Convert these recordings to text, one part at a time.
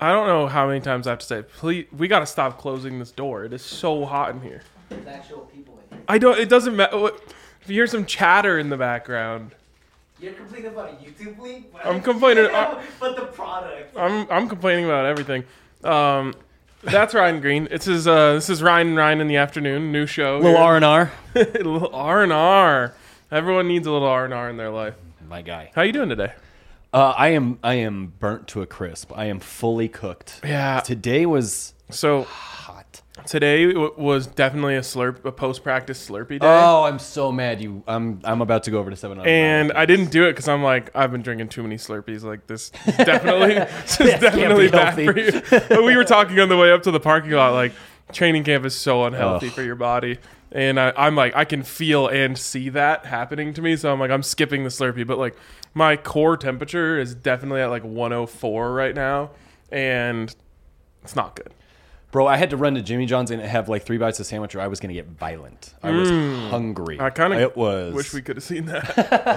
I don't know how many times I have to say, please, we got to stop closing this door. It is so hot in here. There's actual people in here. It doesn't matter. If you hear some chatter in the background. You're complaining about a YouTube link? I'm complaining. But the product. I'm complaining about everything. That's Ryan Green. This is Ryan and Ryan in the afternoon. New show. Little R&R. Little R&R. Everyone needs a little R&R in their life. My guy. How you doing today? I am burnt to a crisp. I am fully cooked. Yeah. Today was So hot. today was definitely a post-practice Slurpee day. Oh, I'm so mad. I'm about to go over to 7-Eleven. And I didn't do it because I'm like, I've been drinking too many Slurpees. Like this is definitely be bad for you. But we were talking on the way up to the parking lot, like training camp is so unhealthy for your body. And I'm like, I can feel and see that happening to me. So I'm like, I'm skipping the Slurpee. But like my core temperature is definitely at like 104 right now. And it's not good. Bro, I had to run to Jimmy John's and have like 3 bites of sandwich or I was going to get violent. I was hungry. I kind of wish we could have seen that.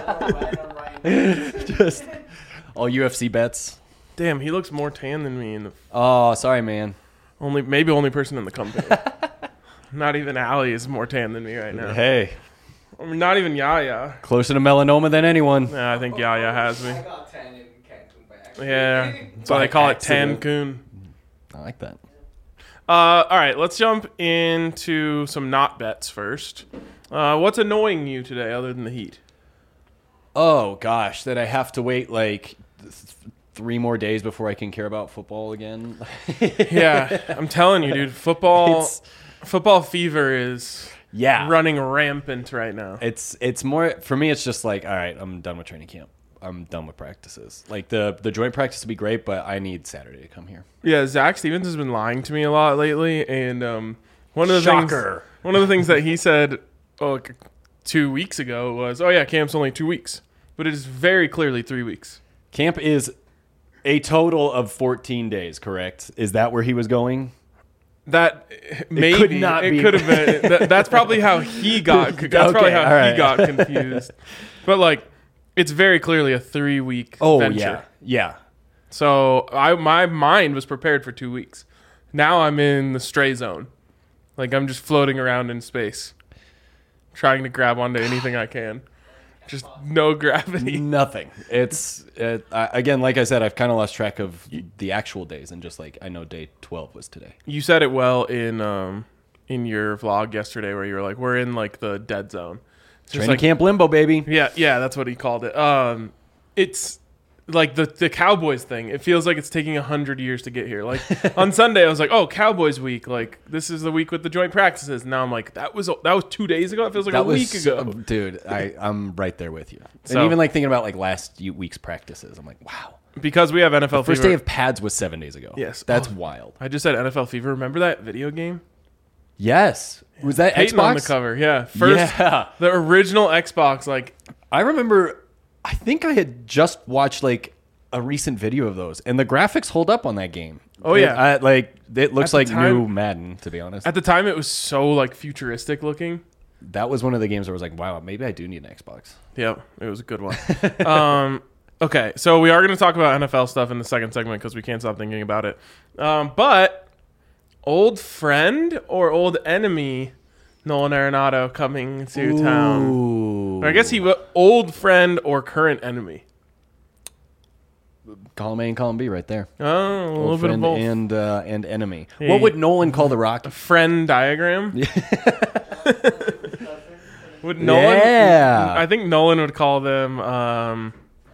Just all UFC bets. Damn, he looks more tan than me. Oh, sorry, man. Only person in the company. Not even Allie is more tan than me right now. Hey. I mean, not even Yaya. Closer to melanoma than anyone. Yeah, I think Yaya has me. I got 10 in Cancun by accident. Yeah, so they call it accident. Tancun. I like that. All right, let's jump into some not bets first. What's annoying you today other than the heat? Oh, gosh, that I have to wait like 3 more days before I can care about football again. Yeah, I'm telling you, dude, football fever is running rampant right now. It's more, for me, it's just like, all right, I'm done with training camp. I'm done with practices. Like the joint practice would be great, but I need Saturday to come here. Yeah, Zach Stevens has been lying to me a lot lately, and one of the things that he said 2 weeks ago was, "Oh yeah, camp's only 2 weeks," but it is very clearly 3 weeks. Camp is a total of 14 days, correct? Is that where he was going? That maybe could not be. Could have been. That's probably how he got. That's probably how he got confused. But like, it's very clearly a 3-week venture. Yeah. So my mind was prepared for 2 weeks. Now I'm in the stray zone. Like I'm just floating around in space, trying to grab onto anything I can. Just no gravity. Nothing. Again, like I said, I've kind of lost track of the actual days, and just like I know day 12 was today. You said it well in your vlog yesterday, where you were like, "We're in like the dead zone." Training camp limbo, baby. Yeah, that's what he called it. It's like the Cowboys thing. It feels like it's taking 100 years to get here. Like on Sunday, I was like, "Oh, Cowboys week! Like this is the week with the joint practices." And now I'm like, "That was 2 days ago. It feels like a week ago." Dude, I'm right there with you. So, and even like thinking about like last week's practices, I'm like, wow. Because we have NFL Fever. First day of pads was 7 days ago. Yes, that's wild. I just said NFL Fever. Remember that video game? Yes. Was that Peyton Xbox on the cover? Yeah, the original Xbox. Like I remember. I think I had just watched like a recent video of those, and the graphics hold up on that game. Oh yeah, it looks like new Madden, to be honest. At the time, it was so like futuristic looking. That was one of the games where I was like, wow, maybe I do need an Xbox. Yeah, it was a good one. Okay, so we are going to talk about NFL stuff in the second segment because we can't stop thinking about it. But old friend or old enemy, Nolan Arenado coming to town. Or I guess old friend or current enemy. Column A and column B right there. Oh, a little bit of both. And enemy. Hey. What would Nolan call the Rock? A friend diagram? Would Nolan? Yeah. I think Nolan would call them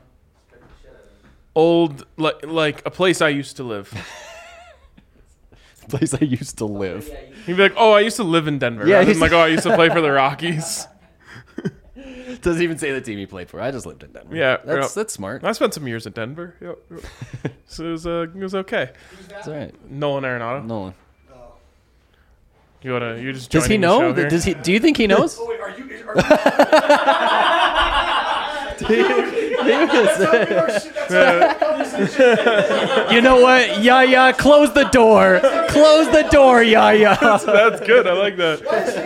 old, like a place I used to live. Place I used to live. He'd be like, "Oh, I used to live in Denver." Yeah, I'm like, "Oh, I used to play for the Rockies." Doesn't even say the team he played for. I just lived in Denver. Yeah, that's smart. I spent some years in Denver. Yep. So it was okay. That's all right. Nolan Arenado. Nolan. You just does he know? Does he? Do you think he knows? Oh wait, are you You know what? Yaya, close the door. Close the door, Yaya. That's good. I like that.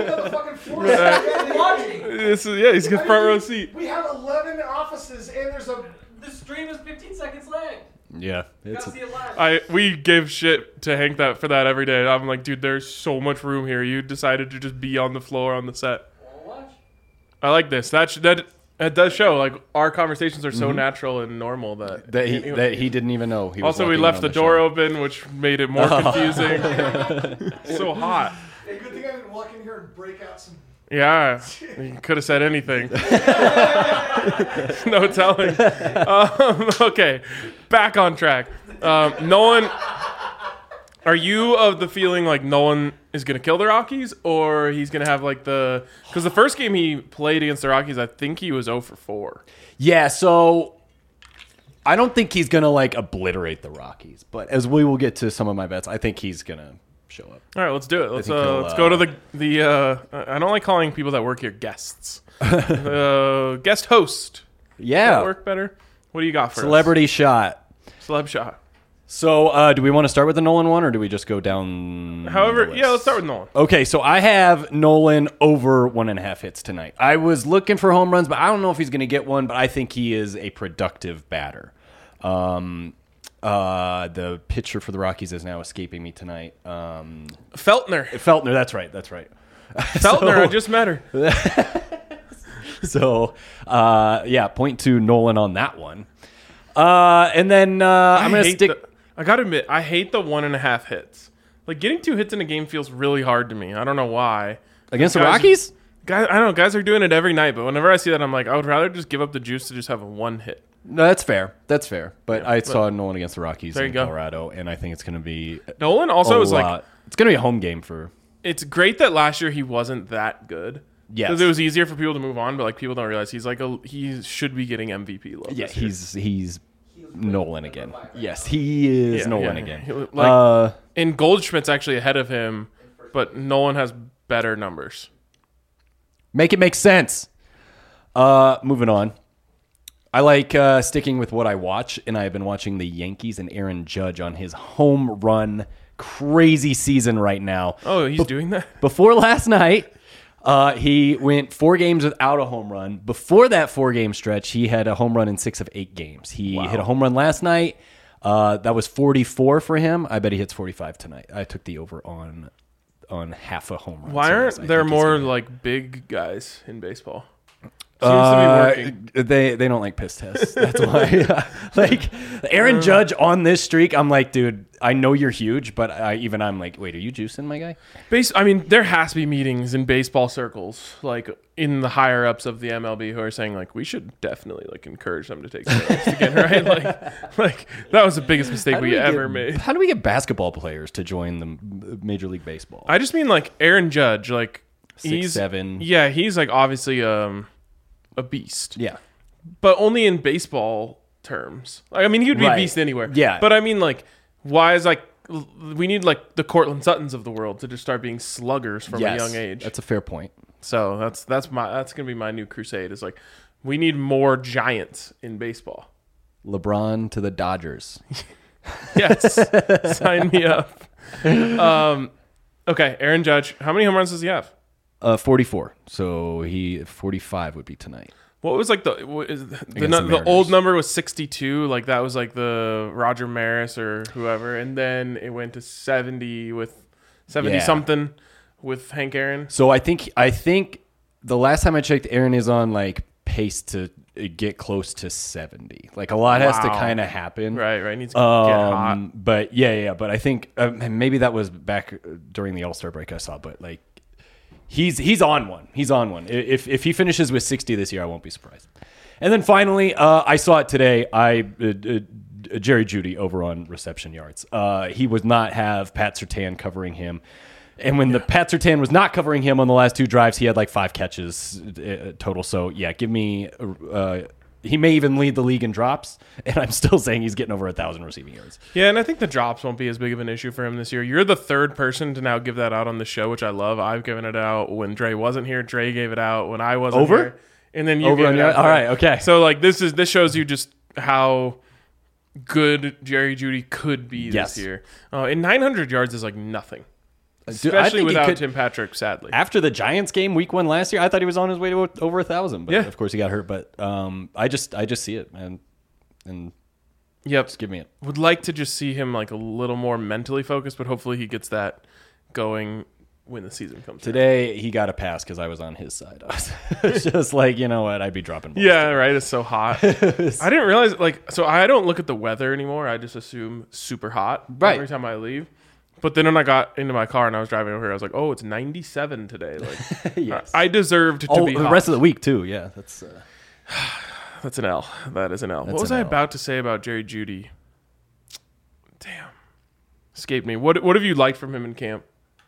He's got front row seat. We have 11 offices and The stream is 15 seconds lag. Yeah, it's Gotta see it live. We give shit to Hank for that every day. I'm like, dude, there's so much room here. You decided to just be on the floor on the set. Wanna watch? I like this. That does show like our conversations are so natural and normal that he didn't even know. He was also, we walking left on the door show. open, which made it more confusing. So hot. Hey, good thing I didn't walk in here and break out some. Yeah, you could have said anything. No telling. Okay, back on track. Nolan, are you of the feeling like Nolan is going to kill the Rockies, or he's going to have like because the first game he played against the Rockies, I think he was 0 for 4. Yeah, so I don't think he's gonna like obliterate the Rockies, but as we will get to some of my bets, I think he's gonna show up. All right, let's do it. Let's think he'll, let's go to the. I don't like calling people that work here guests. Guest host. Does Yeah, that work better? What do you got for celebrity shot. us? Celeb shot. So, do we want to start with the Nolan one, or do we just go down? However, the list? yeah, let's start with Nolan. Okay, so I have Nolan over 1.5 hits tonight. I was looking for home runs, but I don't know if he's going to get one. But I think he is a productive batter. The pitcher for the Rockies is now escaping me tonight. Feltner. Feltner, that's right. Feltner, I just met her. So, yeah, point to Nolan on that one. And then I'm going to stick. I gotta admit, I hate the 1.5 hits. Like getting 2 hits in a game feels really hard to me. I don't know why. Against the Guys- Rockies? Guys, I don't know. Guys are doing it every night, but whenever I see that, I'm like, I would rather just give up the juice to just have a 1 hit. No, that's fair. But I saw Nolan against the Rockies There you in go. Colorado, and I think it's going to be Nolan also is like, it's going to be a home game for. it's great that last year he wasn't that good. Yes. Because it was easier for people to move on, but like people don't realize he's like he should be getting MVP love. Yeah, this year. he's Nolan again. Yes, he is Yeah, Nolan yeah. again. Like, and Goldschmidt's actually ahead of him, but Nolan has better numbers. Make it make sense. Moving on. I like sticking with what I watch, and I have been watching the Yankees and Aaron Judge on his home run crazy season right now. Oh, he's doing that? Before last night, he went 4 games without a home run. Before that 4-game stretch, he had a home run in 6 of 8 games. He hit a home run last night. That was 44 for him. I bet he hits 45 tonight. I took the over on half a home run. Why series. aren't I there think he's more gonna- like big guys in baseball? Seems to be working. They don't like piss tests. That's why. Like Aaron Judge on this streak, I'm like, dude, I know you're huge, but I'm like, wait, are you juicing, my guy? I mean, there has to be meetings in baseball circles, like in the higher ups of the MLB, who are saying like we should definitely like encourage them to take steroids again, right? Like that was the biggest mistake we ever made. How do we get basketball players to join the Major League Baseball? I just mean like Aaron Judge, like 6'7". Yeah, he's like obviously a beast. Yeah. But only in baseball terms. Like, I mean, he would be a Right. beast anywhere. Yeah. But I mean, like, why is like we need like the Cortland Suttons of the world to just start being sluggers from a young age. That's a fair point. So that's gonna be my new crusade. Is like we need more giants in baseball. LeBron to the Dodgers. Yes, sign me up. Okay, Aaron Judge. How many home runs does he have? 44. So 45 would be tonight. What was like the Mariners. old number was 62, like that was like the Roger Maris or whoever, and then it went to 70 with 70 something with Hank Aaron. So I think the last time I checked, Aaron is on like pace to get close to 70. Like a lot has to Wow. kind of happen. Right, needs to get hot. But but I think maybe that was back during the All-Star break I saw, but like he's on one. He's on one. If he finishes with 60 this year, I won't be surprised. And then finally, I saw it today. Jerry Jeudy over on reception yards. He would not have Pat Surtain covering him. And when the Pat Surtain was not covering him on the last 2 drives, he had like 5 catches total. So yeah, give me. He may even lead the league in drops, and I'm still saying he's getting over 1,000 receiving yards. Yeah, and I think the drops won't be as big of an issue for him this year. You're the third person to now give that out on the show, which I love. I've given it out when Dre wasn't here. Dre gave it out when I wasn't Over? here. And then you Over gave on it your, out. all right, okay. So like this shows you just how good Jerry Jeudy could be Yes. this year. And 900 yards is like nothing. Dude, I Especially think he without could- Tim Patrick, sadly. After the Giants game, week 1 last year, I thought he was on his way to over 1,000. But Yeah. of course he got hurt. But I just see it, man. And Yep. Just give me it. Would like to just see him like a little more mentally focused, but hopefully he gets that going when the season comes. Today he got a pass because I was on his side. I was just like, you know what? I'd be dropping balls. Yeah, right. It's so hot. I didn't realize so I don't look at the weather anymore. I just assume super hot every time I leave. But then when I got into my car and I was driving over here, I was like, oh, it's 97 today. Like, Yes. I deserved to be the hot. rest of the week too. Yeah, That's an L. That is an L. What was I about to say about Jerry Jeudy? Damn. Escaped me. What have you liked from him in camp?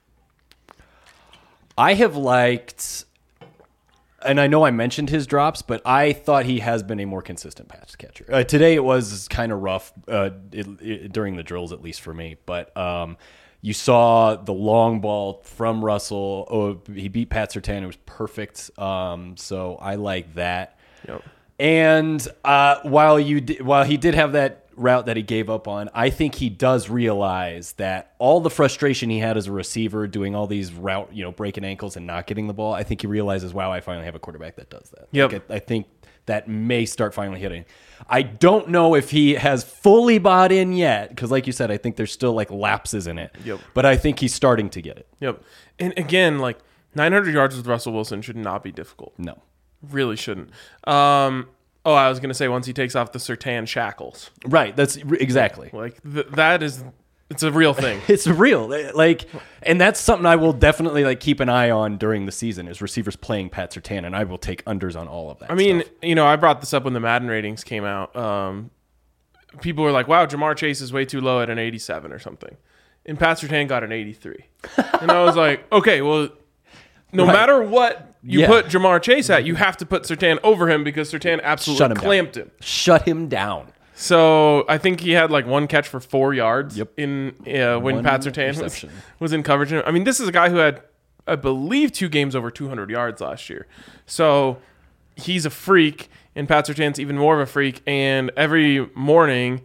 I have liked, and I know I mentioned his drops, but I thought he has been a more consistent pass catcher. Today it was kind of rough during the drills, at least for me. But you saw the long ball from Russell. Oh, he beat Pat Surtain. It was perfect. So I like that. Yep. And while he did have that route that he gave up on, I think he does realize that all the frustration he had as a receiver doing all these breaking ankles and not getting the ball, I think he realizes, wow, I finally have a quarterback that does that. Yep. Like, I think that may start finally hitting. I don't know if he has fully bought in yet, because like you said, I think there's still like lapses in it. Yep. But I think he's starting to get it. Yep. And again, like 900 yards with Russell Wilson should not be difficult. No. Really shouldn't. I was going to say once he takes off the Surtain shackles. Right. That's exactly. Like it's a real thing. It's real. Like, and that's something I will definitely like keep an eye on during the season is receivers playing Pat Surtain, and I will take unders on all of that. I mean, stuff. I brought this up when the Madden ratings came out. People were like, wow, Jamar Chase is way too low at an 87 or something. And Pat Surtain got an 83. And I was like, okay, well, no matter what you put Jamar Chase at, you have to put Surtain over him because Surtain absolutely clamped him. Shut him down. So I think he had like one catch for 4 yards Yep. when Pat Surtain was in coverage. I mean, this is a guy who had, I believe, 2 games over 200 yards last year. So he's a freak, and Pat Surtain's even more of a freak. And every morning,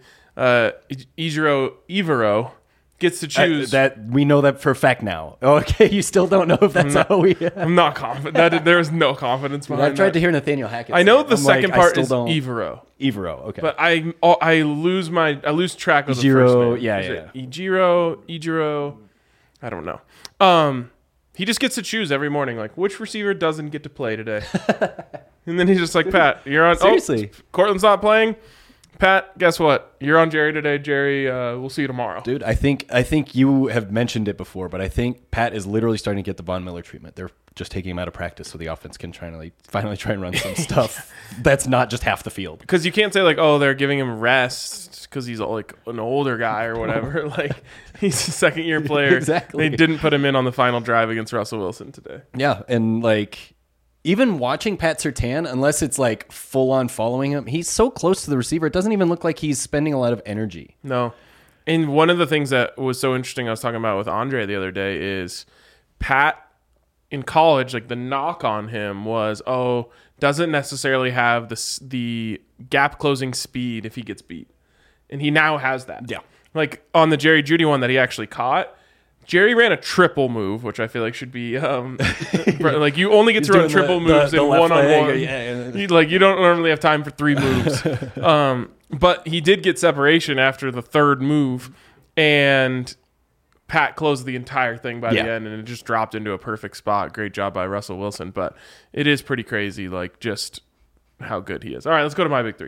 Evero gets to choose. That we know that for a fact now. Okay, you still don't know if that's how we. I'm not confident. There is no confidence behind I've tried that. to hear Nathaniel Hackett. I know say the second part is don't. Evero. Evero, okay. But I lose track of the first name. Yeah. Ejiro. I don't know. He just gets to choose every morning, like which receiver doesn't get to play today. And then he's just like, Pat, you're on. Seriously. Cortland's not playing. Pat, guess what? You're on Jerry today. Jerry, we'll see you tomorrow. Dude, I think you have mentioned it before, but I think Pat is literally starting to get the Von Miller treatment. They're just taking him out of practice so the offense can finally try and run some stuff that's not just half the field. Because you can't say like, oh, they're giving him rest because he's like an older guy or whatever. Like he's a second-year player. Exactly. They didn't put him in on the final drive against Russell Wilson today. Yeah, and like even watching Pat Surtain, unless it's like full on following him, he's so close to the receiver. It doesn't even look like he's spending a lot of energy. No. And one of the things that was so interesting I was talking about with Andre the other day is Pat in college, like the knock on him was, doesn't necessarily have the gap closing speed if he gets beat. And he now has that. Yeah. Like on the Jerry Jeudy one that he actually caught, Jerry ran a triple move, which I feel like should be like you only get to run triple moves in one-on-one. You don't normally have time for 3 moves. But he did get separation after the 3rd move, and Pat closed the entire thing by the end, and it just dropped into a perfect spot. Great job by Russell Wilson, but it is pretty crazy, like just how good he is. All right, let's go to my big 3.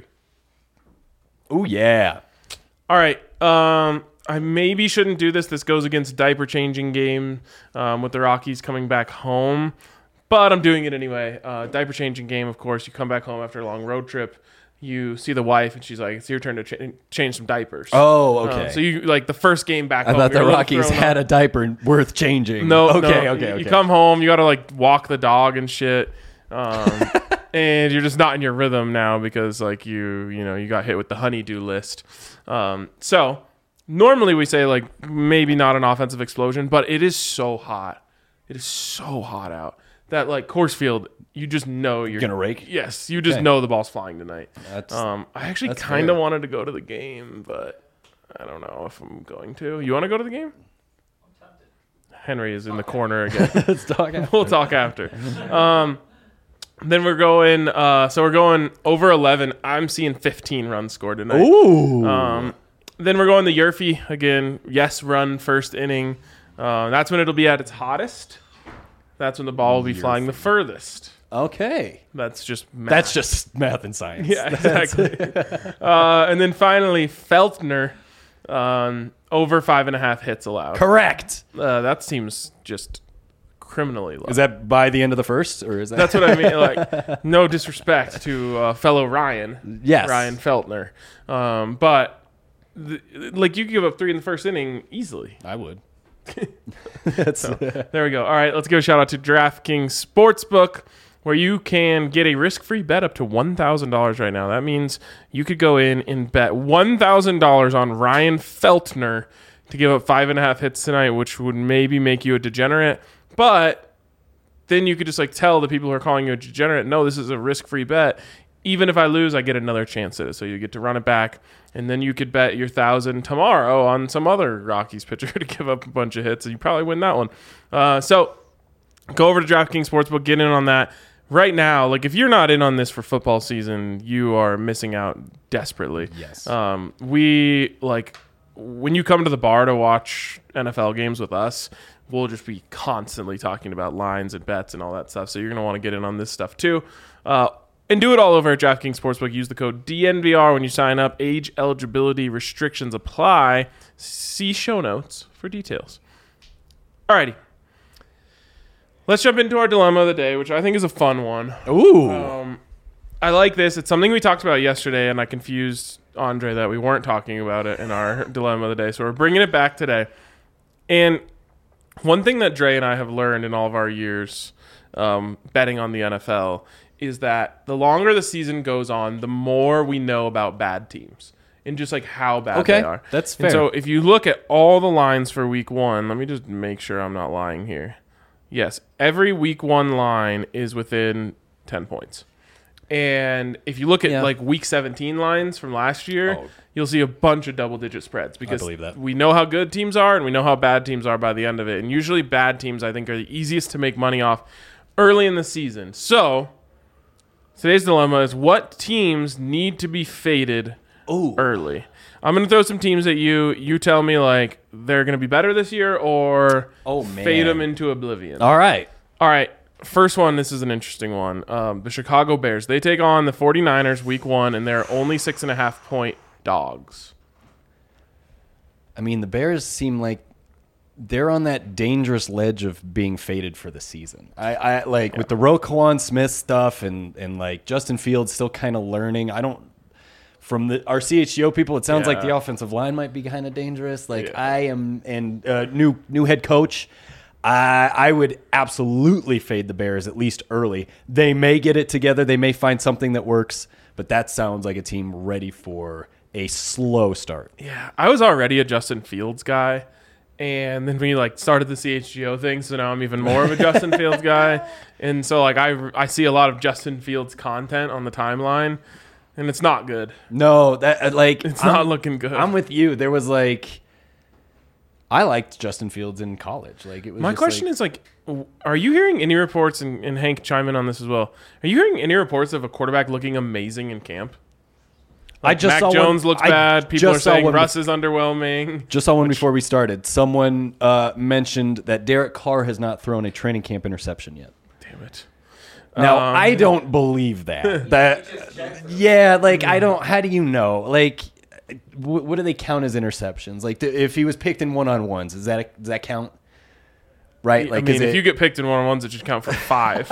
Oh yeah. All right. I maybe shouldn't do this. This goes against diaper changing game with the Rockies coming back home, but I'm doing it anyway. Diaper changing game, of course. You come back home after a long road trip. You see the wife, and she's like, "It's your turn to change some diapers." Oh, okay. So you like the first game back home. I thought the Rockies had a diaper worth changing. No, okay. You come home, you got to like walk the dog and shit. And you're just not in your rhythm now because like you got hit with the honeydew list. So normally we say like maybe not an offensive explosion, but it is so hot. It is so hot out that like Coors Field, you just know you're gonna rake. Yes, you just know the ball's flying tonight. I actually that's kind of fair. wanted to go to the game, but I don't know if I'm going to. You want to go to the game? I'm tempted. Henry is in the corner again. Let's talk. We'll talk after. Then we're going. So we're going over 11. I'm seeing 15 runs scored tonight. Ooh. Then we're going the Yurfie again. Yes, run first inning. That's when it'll be at its hottest. That's when the ball will be flying the furthest. Okay. That's just math. That's just math and science. Yeah, exactly. And then finally, Feltner, over 5.5 hits allowed. Correct. That seems just criminally low. Is that by the end of the first, or is that? That's what I mean. Like, no disrespect to fellow Ryan. Yes. Ryan Feltner. But like, you could give up 3 in the first inning easily. I would. There we go. All right, let's give a shout out to DraftKings Sportsbook, where you can get a risk-free bet up to $1,000 right now. That means you could go in and bet $1,000 on Ryan Feltner to give up 5.5 hits tonight, which would maybe make you a degenerate. But then you could just like tell the people who are calling you a degenerate, no, this is a risk-free bet. Even if I lose, I get another chance at it. So you get to run it back, and then you could bet your 1,000 tomorrow on some other Rockies pitcher to give up a bunch of hits, and you probably win that one. So go over to DraftKings Sportsbook, get in on that. Right now, like, if you're not in on this for football season, you are missing out desperately. Yes. We, like, when you come to the bar to watch NFL games with us, we'll just be constantly talking about lines and bets and all that stuff. So you're going to want to get in on this stuff too. And do it all over at DraftKings Sportsbook. Use the code DNVR when you sign up. Age eligibility restrictions apply. See show notes for details. Alrighty. Let's jump into our dilemma of the day, which I think is a fun one. Ooh. I like this. It's something we talked about yesterday, and I confused Andre that we weren't talking about it in our dilemma of the day. So we're bringing it back today. And one thing that Dre and I have learned in all of our years betting on the NFL is that the longer the season goes on, the more we know about bad teams and just like how bad they are. That's And fair. so if you look at all the lines for week 1, let me just make sure I'm not lying here. Yes, every week 1 line is within 10 points. And if you look at like week 17 lines from last year, you'll see a bunch of double-digit spreads because believe that. we know how good teams are and we know how bad teams are by the end of it. And usually bad teams, I think, are the easiest to make money off early in the season. So today's dilemma is what teams need to be faded early. I'm going to throw some teams at you. You tell me, like, they're going to be better this year or fade them into oblivion. All right. All right. First one, this is an interesting one. The Chicago Bears. They take on the 49ers week 1, and they're only 6.5-point dogs. I mean, the Bears seem like they're on that dangerous ledge of being faded for the season. I like with the Roquan Smith stuff and like Justin Fields still kind of learning. From our CHGO people, it sounds like the offensive line might be kind of dangerous. Like I am, and new head coach. I would absolutely fade the Bears at least early. They may get it together. They may find something that works, but that sounds like a team ready for a slow start. Yeah, I was already a Justin Fields guy, and then we like started the CHGO thing, so now I'm even more of a Justin Fields guy. And so like I see a lot of Justin Fields content on the timeline. And it's not good. No, that like it's not looking good. I'm with you. There was like, I liked Justin Fields in college. Like it was. My question is like, are you hearing any reports? And Hank, chime in on this as well. Are you hearing any reports of a quarterback looking amazing in camp? Like I just Mac saw Jones looks bad. People are saying one Russ is underwhelming. Just saw one before we started. Someone mentioned that Derek Carr has not thrown a training camp interception yet. Damn it. Now I don't believe that. Like I don't. How do you know? Like, what do they count as interceptions? Like, if he was picked in one-on-ones, does that count? Right? Like, I mean, if you get picked in one-on-ones, it should count for 5.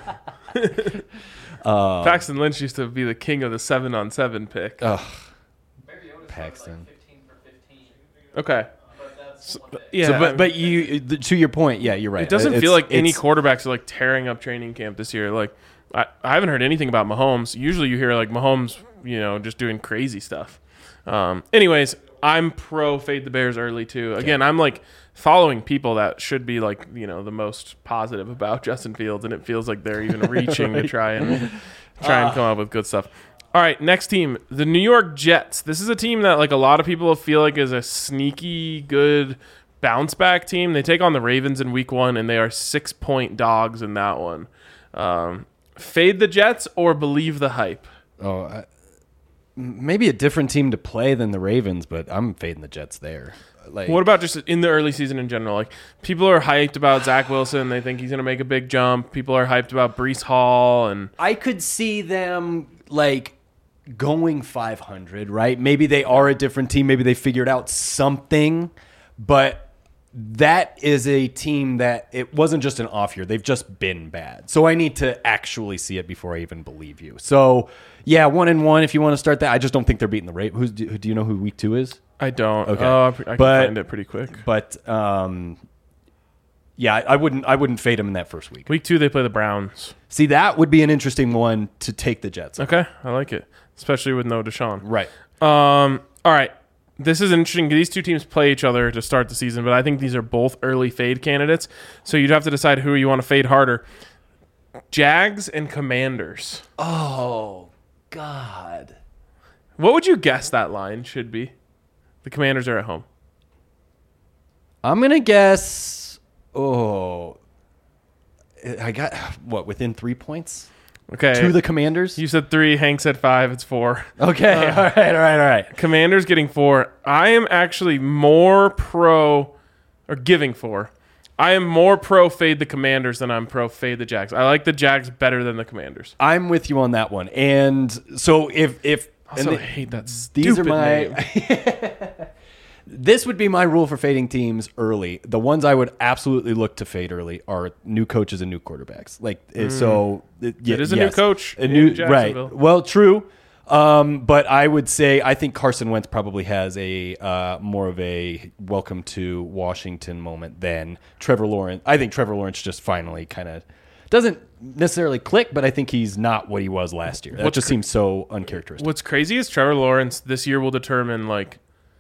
Paxton Lynch used to be the king of the 7-on-7 pick. Paxton. 15 for 15. Okay. But you, to your point, yeah, you're right. It doesn't feel like any quarterbacks are like tearing up training camp this year. Like I haven't heard anything about Mahomes. Usually you hear like Mahomes, just doing crazy stuff. Anyways, I'm pro fade the Bears early too. Again, I'm like following people that should be like, the most positive about Justin Fields, and it feels like they're even reaching to try and come up with good stuff. All right, next team, the New York Jets. This is a team that like a lot of people feel like is a sneaky good bounce back team. They take on the Ravens in week 1, and they are 6-point dogs in that one. Fade the Jets or believe the hype? Maybe a different team to play than the Ravens, but I'm fading the Jets there. Like, What about just in the early season in general? Like, people are hyped about Zach Wilson. They think he's going to make a big jump. People are hyped about Breece Hall. And I could see them like going 500, right? Maybe they are a different team. Maybe they figured out something, but that is a team that it wasn't just an off year. They've just been bad. So I need to actually see it before I even believe you. So yeah, 1-1 if you want to start that. I just don't think they're beating the Ravens. Do you know who week 2 is? I don't. Okay. I can find it pretty quick. But yeah, I wouldn't fade them in that first week. Week 2, they play the Browns. See, that would be an interesting one to take the Jets. Okay, I like it, especially with no Deshaun. Right. All right. This is interesting. These two teams play each other to start the season, but I think these are both early fade candidates. So you'd have to decide who you want to fade harder. Jags and Commanders. Oh, God. What would you guess that line should be? The Commanders are at home. I'm going to guess, I got, within 3 points? Okay. To the Commanders? You said 3. Hank said 5. It's 4. Okay. All right. Commanders getting 4. I am actually more giving 4. I am more pro fade the Commanders than I'm pro fade the Jags. I like the Jags better than the Commanders. I'm with you on that one. And so if Also, and I hate that these are stupid name. This would be my rule for fading teams early. The ones I would absolutely look to fade early are new coaches and new quarterbacks. It is a new coach in right. Jacksonville. Well, true. But I would say I think Carson Wentz probably has a more of a welcome to Washington moment than Trevor Lawrence. I think Trevor Lawrence just finally kind of doesn't necessarily click, but I think he's not what he was last year. That just seems so uncharacteristic. What's crazy is Trevor Lawrence this year will determine, like,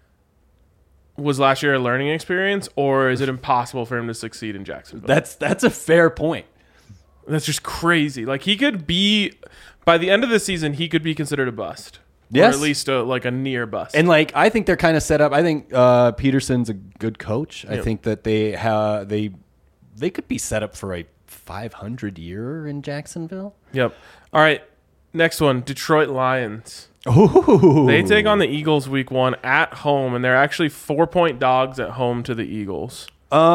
was last year a learning experience, or is it impossible for him to succeed in Jacksonville? That's a fair point. That's just crazy. Like, he could be, by the end of the season, he could be considered a bust. Yes. Or at least a near bust. And like I think they're kind of set up. I think Peterson's a good coach. I think that they could be set up for a 500 year in Jacksonville. Yep. All right. Next one, Detroit Lions. Ooh. They take on the Eagles week 1 at home, and they're actually 4-point dogs at home to the Eagles.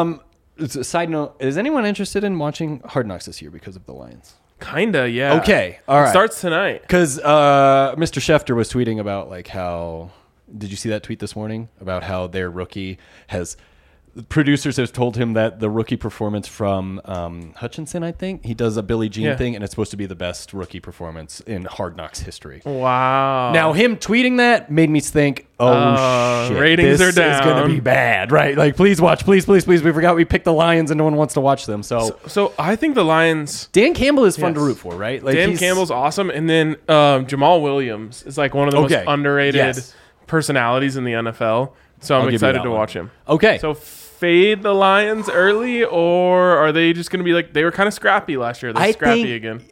Side note, is anyone interested in watching Hard Knocks this year because of the Lions? Kinda, yeah. Okay, all right. It starts tonight. Because Mr. Schefter was tweeting about like how. Did you see that tweet this morning about how their rookie has? Producers have told him that the rookie performance from Hutchinson, I think he does a Billie Jean thing, and it's supposed to be the best rookie performance in Hard Knocks history. Wow. Now him tweeting that made me think, shit, ratings this are down. is going to be bad, right? Like, please watch, please. We forgot we picked the Lions, and no one wants to watch them. So I think the Lions. Dan Campbell is fun to root for, right? Like Dan Campbell's awesome, and then Jamal Williams is like one of the most underrated personalities in the NFL. So I'm excited to watch him. Okay. So fade the Lions early, or are they just going to be like, they were kind of scrappy last year? They're scrappy again.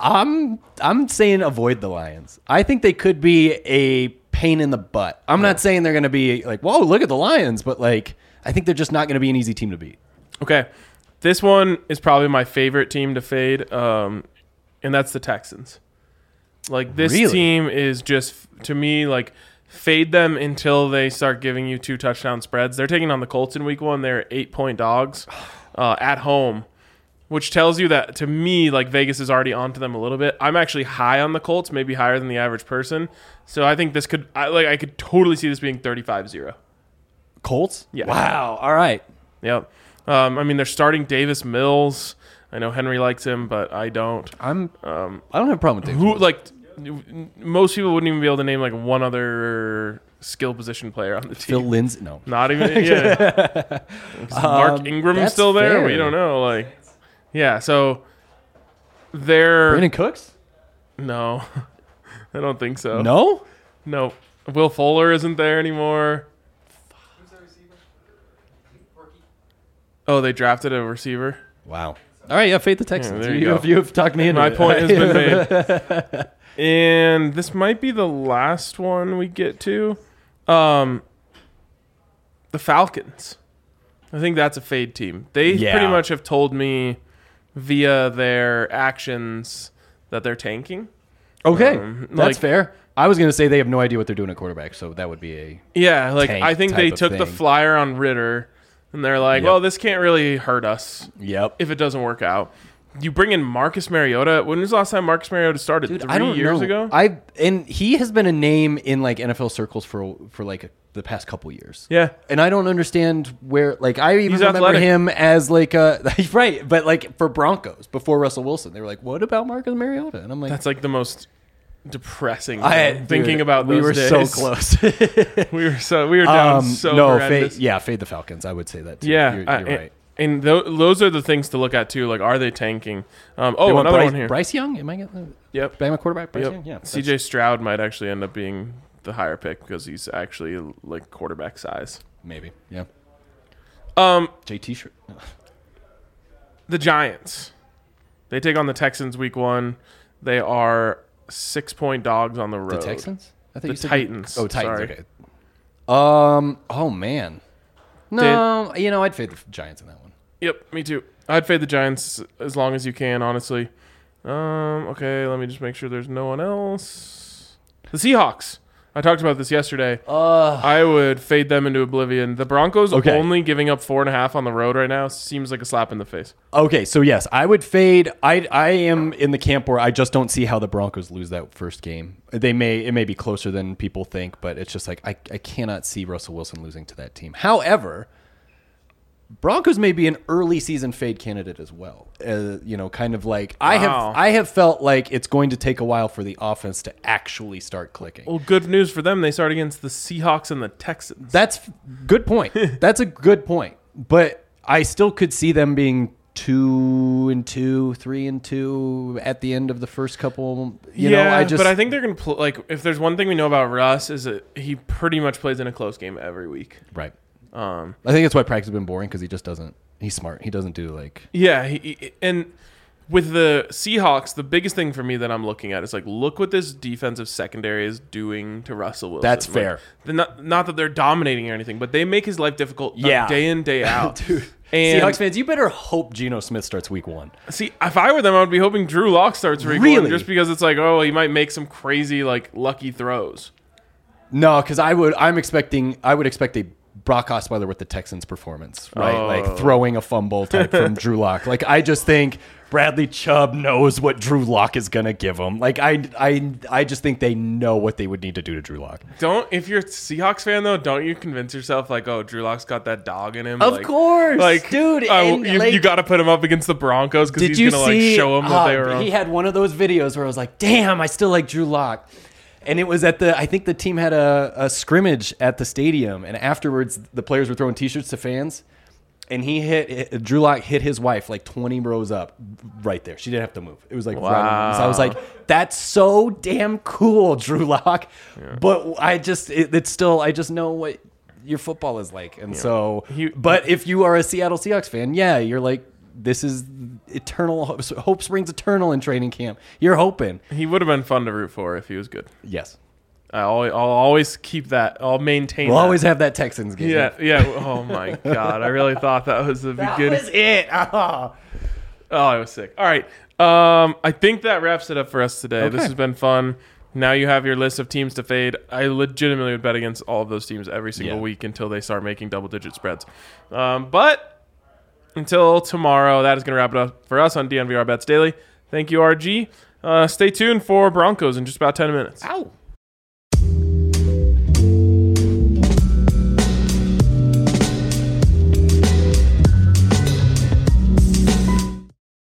I'm saying avoid the Lions. I think they could be a pain in the butt. I'm not saying they're going to be like, whoa, look at the Lions, but like I think they're just not going to be an easy team to beat. Okay. This one is probably my favorite team to fade, and that's the Texans. Like, this team is just, to me, like, fade them until they start giving you 2 touchdown spreads. They're taking on the Colts in week 1. They're 8-point dogs at home, which tells you that, to me, like, Vegas is already onto them a little bit. I'm actually high on the Colts, maybe higher than the average person. So I think this could, I could totally see this being 35-0. Colts? Yeah. Wow. All right. Yep. I mean, they're starting Davis Mills. I know Henry likes him, but I don't. I don't have a problem with Davis Mills. Like, most people wouldn't even be able to name like one other skill position player on the team. Phil Lindsay? No. Not even. Yeah. Is Mark Ingram still there? Fair. We don't know. Like, yeah. So they're Brandon Cooks? No, I don't think so. No. Will Fuller isn't there anymore. Who's the receiver? Rookie. Oh, they drafted a receiver. Wow. All right. Yeah. Fade the Texans. there you go. You've talked me into My it. point has been made. And this might be the last one we get to. The Falcons. I think that's a fade team. They pretty much have told me via their actions that they're tanking. Okay, Like- that's fair. I was going to say they have no idea what they're doing at quarterback, so that would be a Yeah, like tank I think they type of took the thing. flyer on Ritter, and they're like, Yep. well, this can't really hurt us yep. if it doesn't work out. You bring in Marcus Mariota. When was the last time Marcus Mariota started? Dude, 3 I don't years know. ago? And he has been a name in like NFL circles for like the past couple years. Yeah. And I don't understand where, like, I even He's remember athletic. him as like a right, but like for Broncos before Russell Wilson, they were like, "What about Marcus Mariota?" And I'm like, That's like the most depressing I thing, thinking about we those were days. so close. We were down so no, horrendous. fade the Falcons. I would say that too. Yeah, you're right. And those are the things to look at too. Like, are they tanking? They Oh, want another Bryce, one here. Bryce Young. Am I getting Yep. Bama quarterback? Bryce Yep. Young. Yeah. CJ Stroud might actually end up being the higher pick because he's actually like quarterback size. Maybe. Yeah. Um, JT shirt. the Giants. They take on the Texans week 1. They are 6-point dogs on the road. The Texans? I The you said Titans. Oh, Titans. Sorry. Okay. Oh man. No, I'd fade the Giants in that one. Yep, me too. I'd fade the Giants as long as you can, honestly. Okay, let me just make sure there's no one else. The Seahawks. I talked about this yesterday. I would fade them into oblivion. The Broncos Okay. only giving up 4.5 on the road right now seems like a slap in the face. Okay, so yes, I would fade. I am in the camp where I just don't see how the Broncos lose that first game. It may be closer than people think, but it's just like I cannot see Russell Wilson losing to that team. However, Broncos may be an early season fade candidate as well. Kind of like Wow. I have felt like it's going to take a while for the offense to actually start clicking. Well, good news for them. They start against the Seahawks and the Texans. That's good point. That's a good point. But I still could see them being 2-2, 3-2 at the end of the first couple. But I think they're going to play. Like, if there's one thing we know about Russ is that he pretty much plays in a close game every week. Right. I think that's why practice has been boring because he just doesn't. He's smart. He doesn't do like. Yeah, and with the Seahawks, the biggest thing for me that I'm looking at is like, look what this defensive secondary is doing to Russell Wilson. That's Like, fair. not that they're dominating or anything, but they make his life difficult day in, day out. Dude. And Seahawks fans, you better hope Geno Smith starts week 1. see, if I were them, I would be hoping Drew Lock starts week 1 Really? just because it's like, oh, he might make some crazy like lucky throws. No, because I would expect a Brock Osweiler with the Texans performance, right? Oh. Like throwing a fumble type from Drew Lock. Like I just think Bradley Chubb knows what Drew Lock is gonna give him. Like I just think they know what they would need to do to Drew Lock. If you're a Seahawks fan though, don't you convince yourself like, oh, Drew Lock's got that dog in him? Of course, like, dude. And, you like, got to put him up against the Broncos because did he's you gonna see? like show him that they were wrong. He had one of those videos where I was like, "Damn, I still like Drew Lock." And it was I think the team had a scrimmage at the stadium, and afterwards the players were throwing T-shirts to fans, and Drew Lock hit his wife like 20 rows up right there. She didn't have to move. It was like right on. So I was like, that's so damn cool, Drew Lock. Yeah. But it's still, I just know what your football is like. And so, but if you are a Seattle Seahawks fan, yeah, you're like, this is eternal. Hope springs eternal in training camp. You're hoping. He would have been fun to root for if he was good. Yes. I'll always keep that. I'll maintain We'll that. always have that Texans game. Yeah. Oh, my God. I really thought that was the beginning. That was it. Oh, I was sick. All right. I think that wraps it up for us today. Okay. This has been fun. Now you have your list of teams to fade. I legitimately would bet against all of those teams every single week until they start making double-digit spreads. But until tomorrow, that is going to wrap it up for us on DNVR Bets Daily. Thank you, RG. Stay tuned for Broncos in just about 10 minutes. Ow.